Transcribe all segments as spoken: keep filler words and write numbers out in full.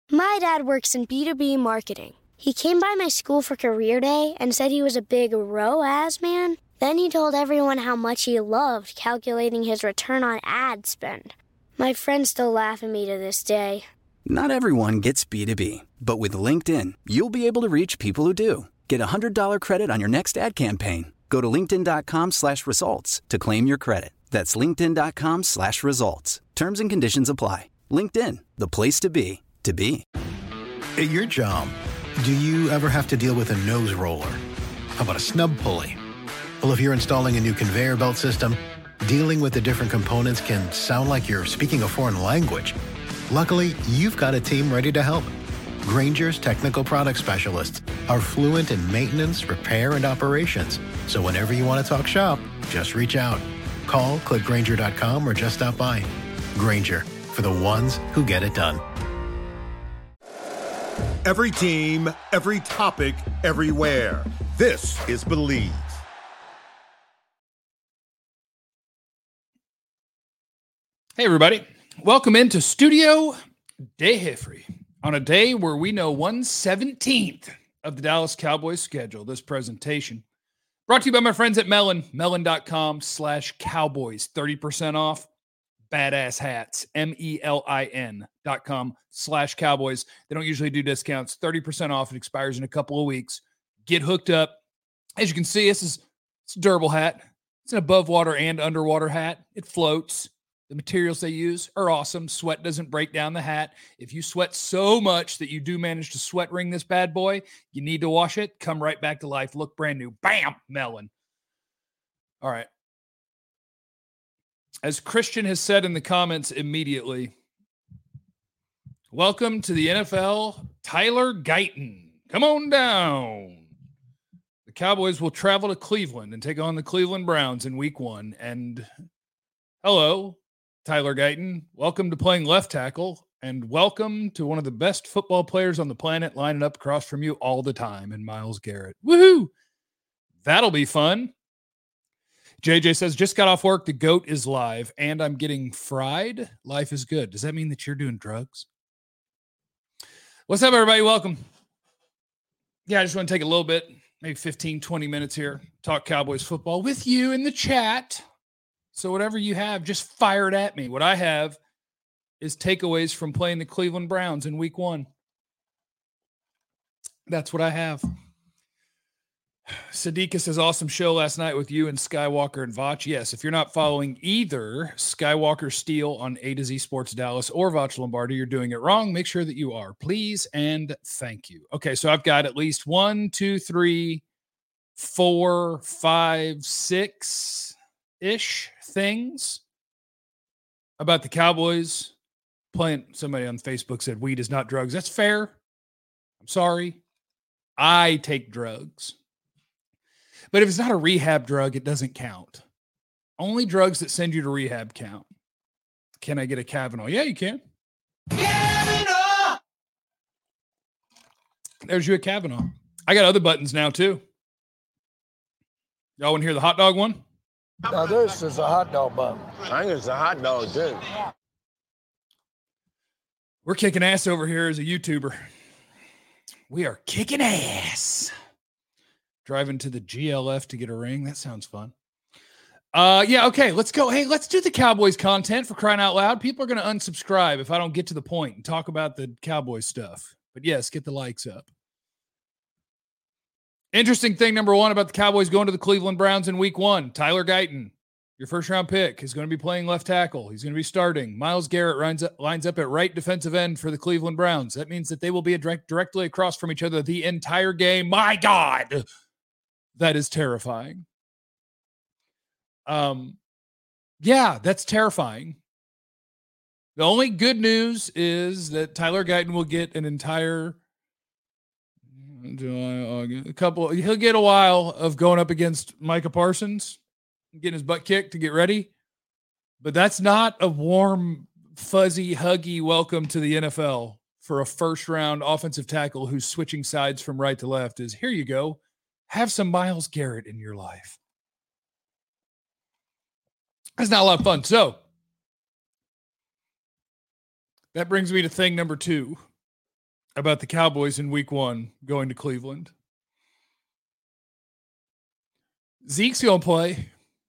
My dad works in B two B marketing. He came by my school for career day and said he was a big R O A S man. Then he told everyone how much he loved calculating his return on ad spend. My friends still laugh at me to this day. Not everyone gets B two B, but with LinkedIn, you'll be able to reach people who do. Get a one hundred dollars credit on your next ad campaign. Go to linkedin.com slash results to claim your credit. That's linkedin.com slash results. Terms and conditions apply. LinkedIn, the place to be, to be. At your job, do you ever have to deal with a nose roller? How about a snub pulley? Well, if you're installing a new conveyor belt system, dealing with the different components can sound like you're speaking a foreign language. Luckily, you've got a team ready to help. Grainger's technical product specialists are fluent in maintenance, repair, and operations. So whenever you want to talk shop, just reach out. Call, click Grainger dot com, or just stop by. Grainger, for the ones who get it done. Every team, every topic, everywhere. This is Believe. Hey, everybody. Welcome into Studio De Heffrey on a day where we know one seventeenth of the Dallas Cowboys schedule. This presentation brought to you by my friends at Melon, melon.com slash cowboys. thirty percent off badass hats, M E L I N dot com slash cowboys. They don't usually do discounts. thirty percent off. It expires in a couple of weeks. Get hooked up. As you can see, this is it's a durable hat. It's an above water and underwater hat. It floats. The materials they use are awesome. Sweat doesn't break down the hat. If you sweat so much that you do manage to sweat ring this bad boy, you need to wash it. Come right back to life. Look brand new. Bam! Melon. All right. As Christian has said in the comments immediately, welcome to the N F L, Tyler Guyton. Come on down. The Cowboys will travel to Cleveland and take on the Cleveland Browns in week one. And hello, Tyler Guyton. Welcome to playing left tackle, and welcome to one of the best football players on the planet lining up across from you all the time in Myles Garrett. Woohoo! That'll be fun. J J says, just got off work. The GOAT is live, and I'm getting fried. Life is good. Does that mean that you're doing drugs? What's up, everybody? Welcome. Yeah, I just want to take a little bit, maybe fifteen, twenty minutes here, talk Cowboys football with you in the chat. So whatever you have, just fire it at me. What I have is takeaways from playing the Cleveland Browns in week one. That's what I have. Sadiqa says, awesome show last night with you and Skywalker and Vach. Yes, if you're not following either Skywalker Steele on A to Z Sports Dallas or Vach Lombardi, you're doing it wrong. Make sure that you are. Please and thank you. Okay, so I've got at least one, two, three, four, five, six-ish things about the Cowboys playing. Somebody on Facebook said weed is not drugs. That's fair. I'm sorry. I take drugs. But if it's not a rehab drug, it doesn't count. Only drugs that send you to rehab count. Can I get a Kavanaugh? Yeah, you can. Kavanaugh! There's you a Kavanaugh. I got other buttons now, too. Y'all want to hear the hot dog one? Now, this is a hot dog bun. I think it's a hot dog, too. We're kicking ass over here as a YouTuber. We are kicking ass. Driving to the G L F to get a ring. That sounds fun. Uh, yeah, okay, let's go. Hey, let's do the Cowboys content, for crying out loud. People are going to unsubscribe if I don't get to the point and talk about the Cowboys stuff. But yes, get the likes up. Interesting thing, number one, about the Cowboys going to the Cleveland Browns in week one. Tyler Guyton, your first-round pick, is going to be playing left tackle. He's going to be starting. Myles Garrett lines up, lines up at right defensive end for the Cleveland Browns. That means that they will be a direct, directly across from each other the entire game. My God! That is terrifying. Um, yeah, that's terrifying. The only good news is that Tyler Guyton will get an entire July, August, a couple. He'll get a while of going up against Micah Parsons, getting his butt kicked to get ready. But that's not a warm, fuzzy, huggy welcome to the N F L for a first-round offensive tackle who's switching sides from right to left. Is here you go. Have some Myles Garrett in your life. That's not a lot of fun. So that brings me to thing number two. about the Cowboys in week one going to Cleveland. Zeke's going to play.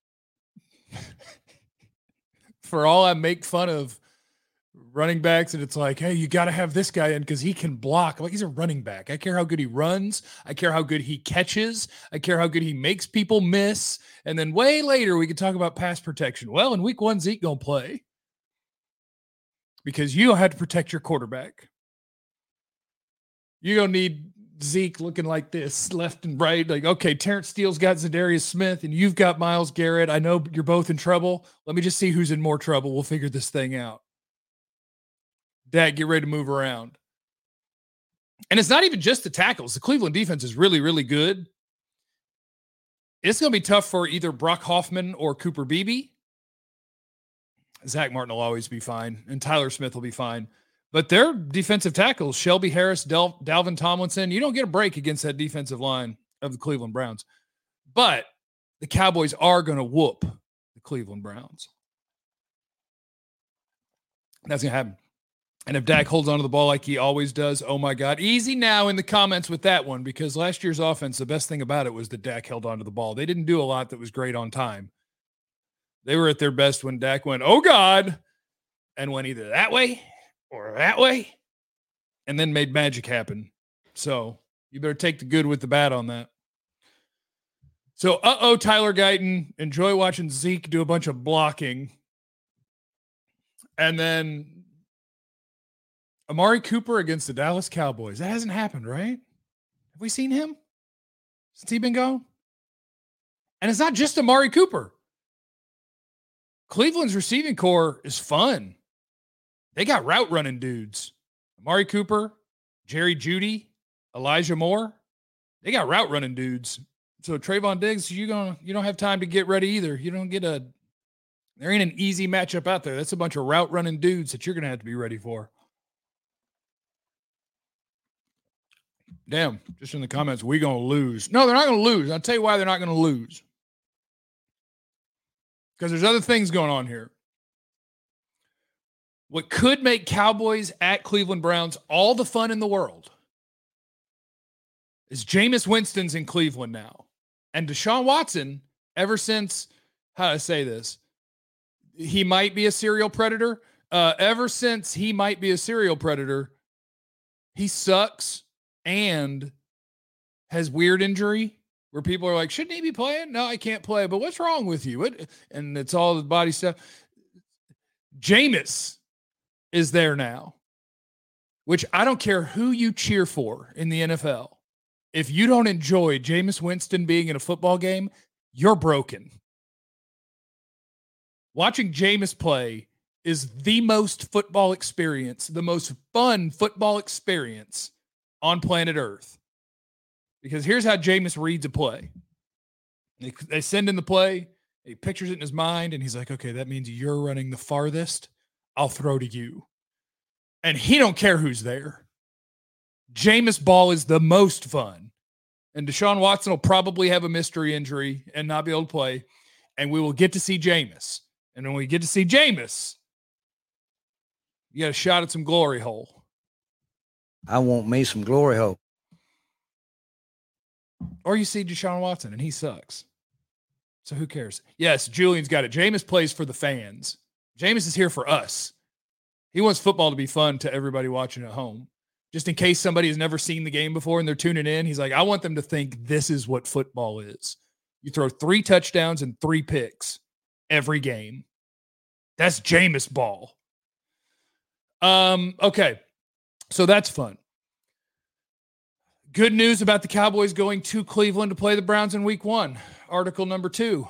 For all I make fun of running backs, and it's like, hey, you got to have this guy in because he can block. Like, he's a running back. I care how good he runs. I care how good he catches. I care how good he makes people miss. And then way later, we can talk about pass protection. Well, in week one, Zeke going to play because you don't have to protect your quarterback. You're going to need Zeke looking like this left and right. Like, okay, Terrence Steele's got Zadarius Smith and you've got Myles Garrett. I know you're both in trouble. Let me just see who's in more trouble. We'll figure this thing out. Dad, get ready to move around. And it's not even just the tackles. The Cleveland defense is really, really good. It's going to be tough for either Brock Hoffman or Cooper Beebe. Zach Martin will always be fine, and Tyler Smith will be fine. But their defensive tackles, Shelby Harris, Del- Dalvin Tomlinson, you don't get a break against that defensive line of the Cleveland Browns. But the Cowboys are going to whoop the Cleveland Browns. That's going to happen. And if Dak holds onto the ball like he always does, oh my God. Easy now in the comments with that one, because last year's offense, the best thing about it was that Dak held onto the ball. They didn't do a lot that was great on time. They were at their best when Dak went, oh God, and went either that way or that way, and then made magic happen. So you better take the good with the bad on that. So, uh-oh, Tyler Guyton, enjoy watching Zeke do a bunch of blocking. And then Amari Cooper against the Dallas Cowboys. That hasn't happened, right? Have we seen him since he's been gone? And it's not just Amari Cooper. Cleveland's receiving core is fun. They got route running dudes. Amari Cooper, Jerry Jeudy, Elijah Moore. They got route running dudes. So Trayvon Diggs, you gonna you don't have time to get ready either. You don't get a there ain't an easy matchup out there. That's a bunch of route running dudes that you're gonna have to be ready for. Damn, just in the comments, we gonna lose. No, they're not gonna lose. I'll tell you why they're not gonna lose. Because there's other things going on here. What could make Cowboys at Cleveland Browns all the fun in the world is Jameis Winston's in Cleveland now. And Deshaun Watson, ever since, how do I say this? He might be a serial predator. Uh, ever since he might be a serial predator, he sucks and has weird injury where people are like, shouldn't he be playing? No, I can't play. But what's wrong with you? What? And it's all the body stuff. Jameis is there now, which I don't care who you cheer for in the N F L. If you don't enjoy Jameis Winston being in a football game, you're broken. Watching Jameis play is the most football experience, the most fun football experience on planet Earth. Because here's how Jameis reads a play. They, they send in the play, he pictures it in his mind, and he's like, okay, that means you're running the farthest. I'll throw to you. And he don't care who's there. Jameis ball is the most fun. And Deshaun Watson will probably have a mystery injury and not be able to play. And we will get to see Jameis. And when we get to see Jameis, you got a shot at some glory hole. I want me some glory hole. Or you see Deshaun Watson and he sucks. So who cares? Yes, Julian's got it. Jameis plays for the fans. Jameis is here for us. He wants football to be fun to everybody watching at home. Just in case somebody has never seen the game before and they're tuning in, he's like, I want them to think this is what football is. You throw three touchdowns and three picks every game. That's Jameis ball. Um, okay. So that's fun. Good news about the Cowboys going to Cleveland to play the Browns in week one. Article number two.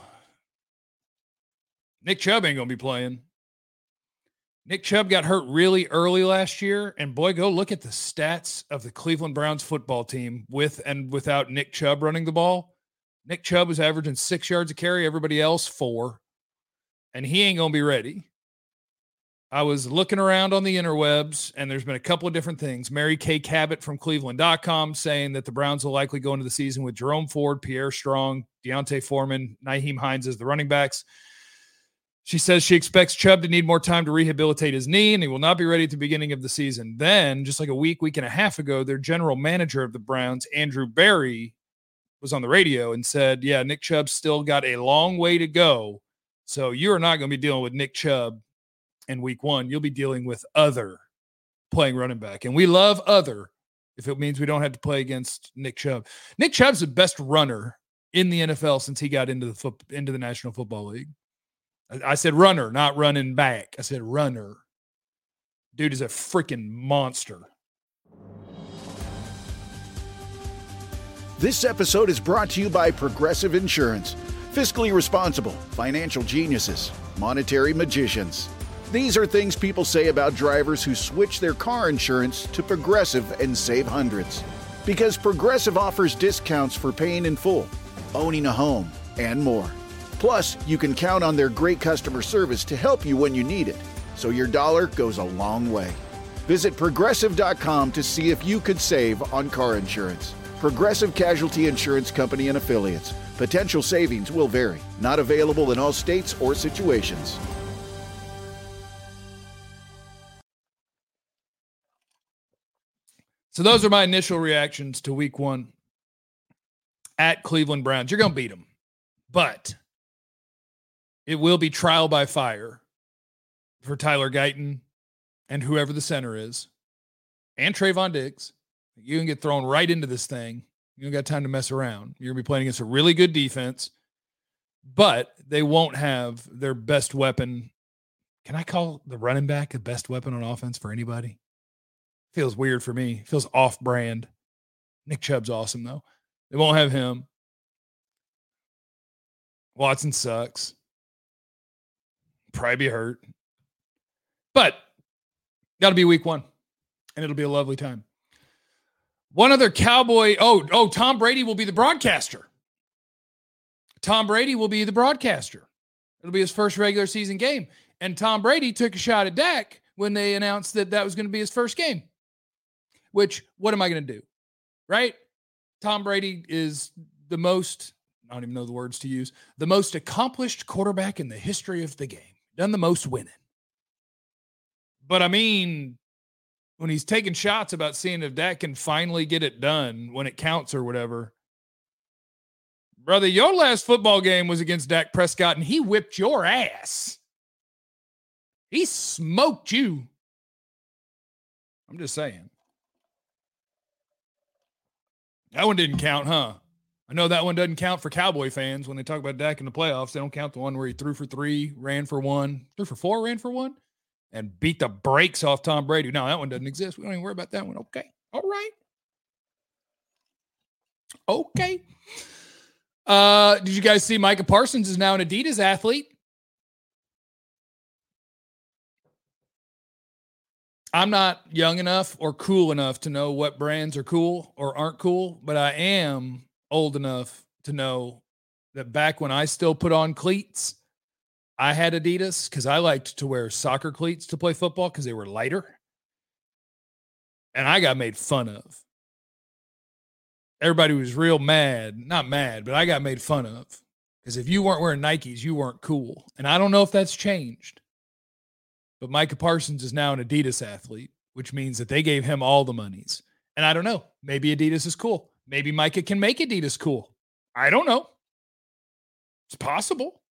Nick Chubb ain't going to be playing. Nick Chubb got hurt really early last year, and boy, go look at the stats of the Cleveland Browns football team with and without Nick Chubb running the ball. Nick Chubb was averaging six yards a carry, everybody else four, and he ain't going to be ready. I was looking around on the interwebs, and there's been a couple of different things. Mary Kay Cabot from Cleveland dot com saying that the Browns will likely go into the season with Jerome Ford, Pierre Strong, Deontay Foreman, Nyheim Hines as the running backs. She says she expects Chubb to need more time to rehabilitate his knee, and he will not be ready at the beginning of the season. Then, just like a week, week and a half ago, their general manager of the Browns, Andrew Berry, was on the radio and said, yeah, Nick Chubb's still got a long way to go. So you're not going to be dealing with Nick Chubb in week one. You'll be dealing with other playing running back. And we love other if it means we don't have to play against Nick Chubb. Nick Chubb's the best runner in the N F L since he got into the foot, into the National Football League. I, I said runner, not running back. I said runner. Dude is a freaking monster. This episode is brought to you by Progressive Insurance. Fiscally responsible, financial geniuses, monetary magicians. These are things people say about drivers who switch their car insurance to Progressive and save hundreds. Because Progressive offers discounts for paying in full, owning a home, and more. Plus, you can count on their great customer service to help you when you need it, so your dollar goes a long way. Visit Progressive dot com to see if you could save on car insurance. Progressive Casualty Insurance Company and Affiliates. Potential savings will vary. Not available in all states or situations. So those are my initial reactions to week one at Cleveland Browns. You're going to beat them, but it will be trial by fire for Tyler Guyton and whoever the center is, and Trayvon Diggs. You can get thrown right into this thing. You don't got time to mess around. You're going to be playing against a really good defense, but they won't have their best weapon. Can I call the running back the best weapon on offense for anybody? Feels weird for me. Feels off-brand. Nick Chubb's awesome, though. They won't have him. Watson sucks. Probably be hurt. But got to be week one, and it'll be a lovely time. One other Cowboy. Oh, oh, Tom Brady will be the broadcaster. Tom Brady will be the broadcaster. It'll be his first regular season game. And Tom Brady took a shot at Dak when they announced that that was going to be his first game. Which, what am I going to do? Right? Tom Brady is the most, I don't even know the words to use, the most accomplished quarterback in the history of the game. Done the most winning. But I mean, when he's taking shots about seeing if Dak can finally get it done when it counts or whatever. Brother, your last football game was against Dak Prescott, and he whipped your ass. He smoked you. I'm just saying. That one didn't count, huh? I know that one doesn't count for Cowboy fans when they talk about Dak in the playoffs. They don't count the one where he threw for three, ran for one, threw for four, ran for one, and beat the brakes off Tom Brady. No, that one doesn't exist. We don't even worry about that one. Okay. All right. Okay. Uh, did you guys see Micah Parsons is now an Adidas athlete? I'm not young enough or cool enough to know what brands are cool or aren't cool, but I am old enough to know that back when I still put on cleats, I had Adidas because I liked to wear soccer cleats to play football because they were lighter. And I got made fun of. Everybody was real mad. Not mad, but I got made fun of. Because if you weren't wearing Nikes, you weren't cool. And I don't know if that's changed. But Micah Parsons is now an Adidas athlete, which means that they gave him all the monies. And I don't know. Maybe Adidas is cool. Maybe Micah can make Adidas cool. I don't know. It's possible.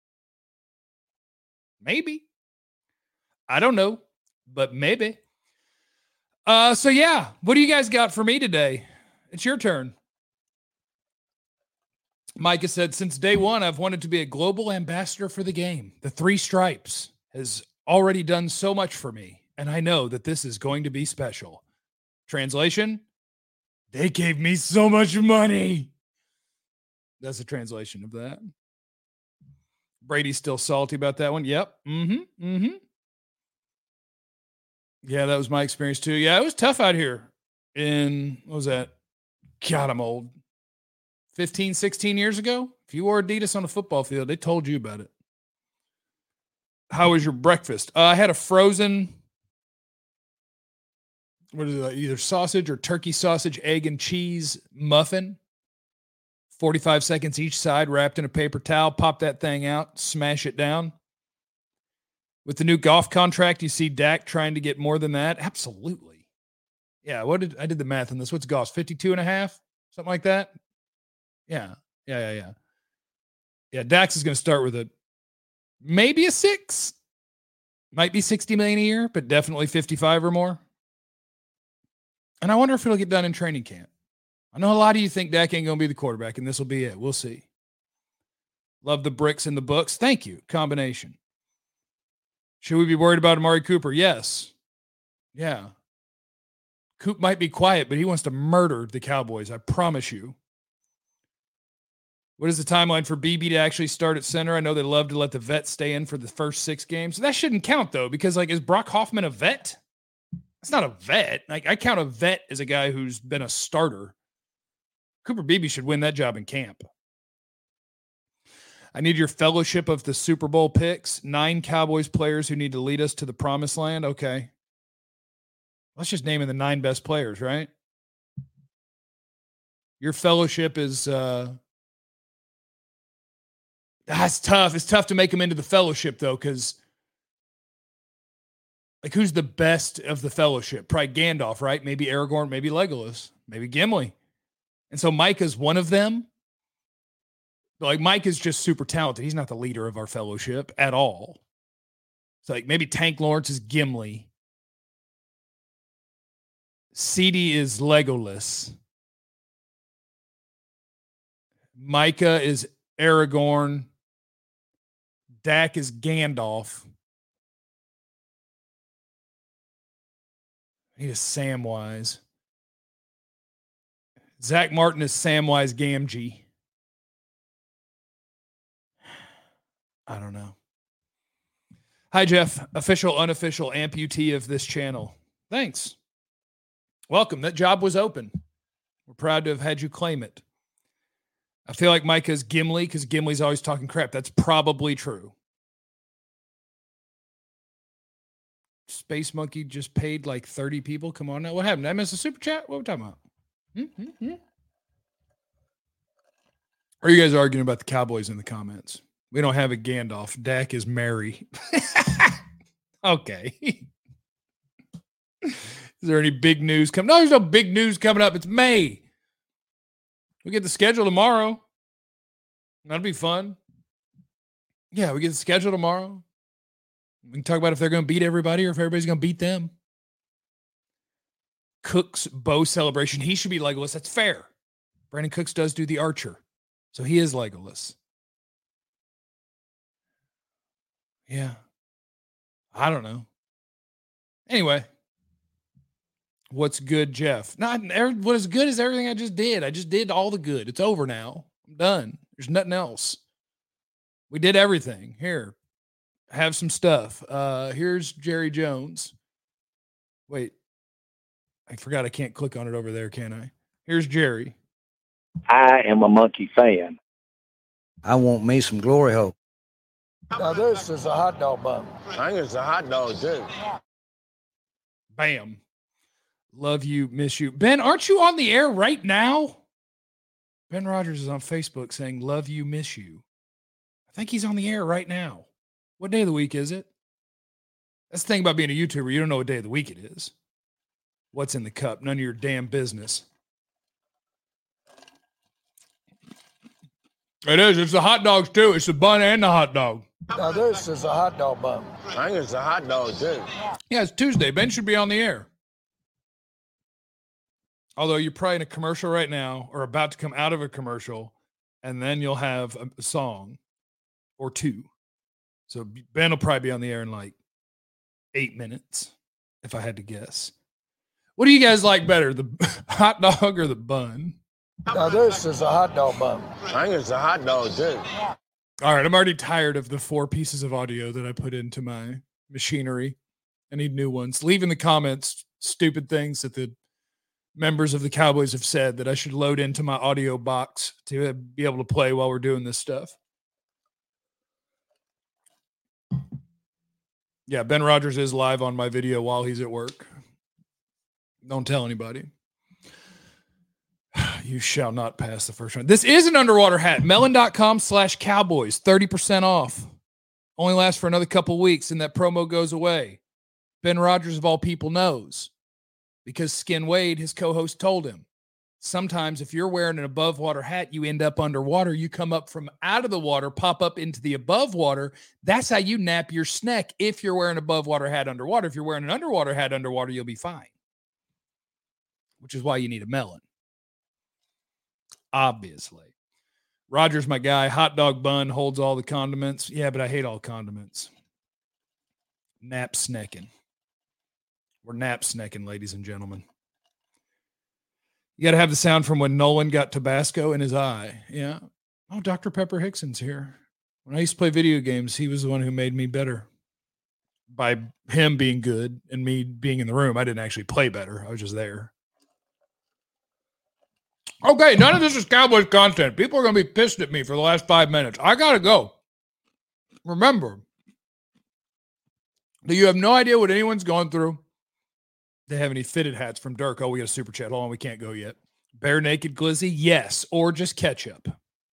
Maybe. I don't know, but maybe. Uh, so, yeah, what do you guys got for me today? It's your turn. Micah said, since day one, I've wanted to be a global ambassador for the game. The three stripes has already done so much for me, and I know that this is going to be special. Translation, they gave me so much money. That's the translation of that. Brady's still salty about that one. Yep. Mm-hmm. Mm-hmm. Yeah, that was my experience too. Yeah, it was tough out here in, what was that? God, I'm old. fifteen, sixteen years ago. If you wore Adidas on a football field, they told you about it. How was your breakfast? Uh, I had a frozen, what is it, either sausage or turkey sausage, egg and cheese muffin. forty-five seconds each side, wrapped in a paper towel. Pop that thing out, smash it down. With the new golf contract, you see Dak trying to get more than that? Absolutely. Yeah, what did I did the math on this? What's golf? fifty-two and a half? Something like that? Yeah. Yeah, yeah, yeah. Yeah, Dax is going to start with a maybe a six. Might be sixty million a year, but definitely fifty-five or more. And I wonder if it'll get done in training camp. I know a lot of you think Dak ain't going to be the quarterback, and this will be it. We'll see. Love the bricks and the books. Thank you. Combination. Should we be worried about Amari Cooper? Yes. Yeah. Coop might be quiet, but he wants to murder the Cowboys. I promise you. What is the timeline for B B to actually start at center? I know they love to let the vet stay in for the first six games. That shouldn't count, though, because, like, is Brock Hoffman a vet? It's not a vet. Like, I count a vet as a guy who's been a starter. Cooper Beebe should win that job in camp. I need your fellowship of the Super Bowl picks. Nine Cowboys players who need to lead us to the promised land. Okay. Let's just name in the nine best players, right? Your fellowship is uh that's tough. It's tough to make them into the fellowship, though, because like who's the best of the fellowship? Probably Gandalf, right? Maybe Aragorn, maybe Legolas, maybe Gimli. And so Micah's one of them. But like Mike is just super talented. He's not the leader of our fellowship at all. So like maybe Tank Lawrence is Gimli. C D is Legolas. Micah is Aragorn. Dak is Gandalf. I need a Samwise. Zach Martin is Samwise Gamgee. I don't know. Hi, Jeff. Official, unofficial amputee of this channel. Thanks. Welcome. That job was open. We're proud to have had you claim it. I feel like Micah's Gimli because Gimli's always talking crap. That's probably true. Space Monkey just paid like thirty people. Come on now. What happened? Did I miss a super chat? What are we talking about? Mm-hmm. Or are you guys arguing about the Cowboys in the comments? We don't have a Gandalf. Dak is Mary. Okay. Is there any big news coming? No, there's no big news coming up. It's May. We get the schedule tomorrow. That'll be fun. Yeah, we get the schedule tomorrow. We can talk about if they're going to beat everybody or if everybody's going to beat them. Cook's bow celebration. He should be Legolas. That's fair. Brandon Cooks does do the archer. So he is Legolas. Yeah. I don't know. Anyway. What's good, Jeff? Not what is good is everything I just did. I just did all the good. It's over now. I'm done. There's nothing else. We did everything. Here. Have some stuff. Uh, here's Jerry Jones. Wait. I forgot I can't click on it over there, can I? Here's Jerry. I am a Monkey fan. I want me some glory hole. Now this is a hot dog bun. I think it's a hot dog, too. Bam. Love you, miss you. Ben, aren't you on the air right now? Ben Rogers is on Facebook saying, love you, miss you. I think he's on the air right now. What day of the week is it? That's the thing about being a YouTuber. You don't know what day of the week it is. What's in the cup? None of your damn business. It is. It's the hot dogs, too. It's the bun and the hot dog. Now this is a hot dog bun. I think it's a hot dog, too. Yeah, it's Tuesday. Ben should be on the air. Although you're probably in a commercial right now or about to come out of a commercial, and then you'll have a, a song or two. So Ben will probably be on the air in like eight minutes, if I had to guess. What do you guys like better, the hot dog or the bun? Now this is a hot dog bun. I think it's a hot dog, too. All right, I'm already tired of the four pieces of audio that I put into my machinery. I need new ones. Leave in the comments stupid things that the members of the Cowboys have said that I should load into my audio box to be able to play while we're doing this stuff. Yeah, Ben Rogers is live on my video while he's at work. Don't tell anybody. You shall not pass the first round. This is an underwater hat. Melon.com slash Cowboys. thirty percent off. Only lasts for another couple weeks, and that promo goes away. Ben Rogers, of all people, knows because Skin Wade, his co-host, told him. Sometimes if you're wearing an above water hat, you end up underwater. You come up from out of the water, pop up into the above water. That's how you nap your snack if you're wearing an above water hat underwater. If you're wearing an underwater hat underwater, you'll be fine, which is why you need a melon. Obviously. Roger's my guy. Hot dog bun holds all the condiments. Yeah, but I hate all condiments. Nap snacking. We're nap snacking, ladies and gentlemen. You got to have the sound from when Nolan got Tabasco in his eye. Yeah. Oh, Doctor Pepper Hickson's here. When I used to play video games, he was the one who made me better by him being good and me being in the room. I didn't actually play better. I was just there. Okay, none of this is Cowboys content. People are going to be pissed at me for the last five minutes. I got to go. Remember that you have no idea what anyone's going through. They have any fitted hats from Dirk. Oh, we got a super chat. Hold on, we can't go yet. Bare Naked Glizzy? Yes, or just ketchup.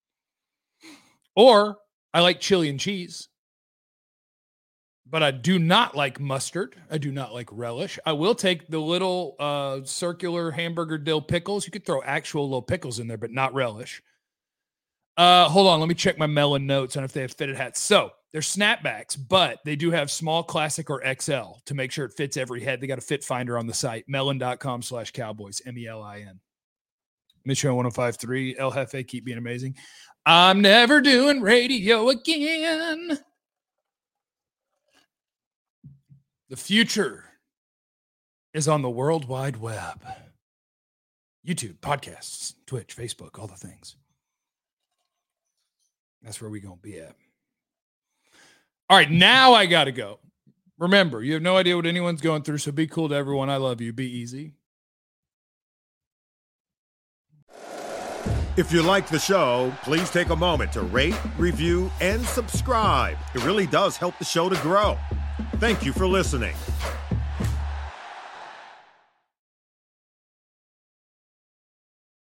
Or I like chili and cheese. But I do not like mustard. I do not like relish. I will take the little uh, circular hamburger dill pickles. You could throw actual little pickles in there, but not relish. Uh, hold on. Let me check my melon notes on if they have fitted hats. So they're snapbacks, but they do have small, classic, or X L to make sure it fits every head. They got a fit finder on the site, melon.com slash cowboys, M E L I N. Mission one oh five point three, El Jefe, keep being amazing. I'm never doing radio again. The future is on the World Wide Web. YouTube, podcasts, Twitch, Facebook, all the things. That's where we're going to be at. All right, now I got to go. Remember, you have no idea what anyone's going through, so be cool to everyone. I love you. Be easy. If you like the show, please take a moment to rate, review, and subscribe. It really does help the show to grow. Thank you for listening.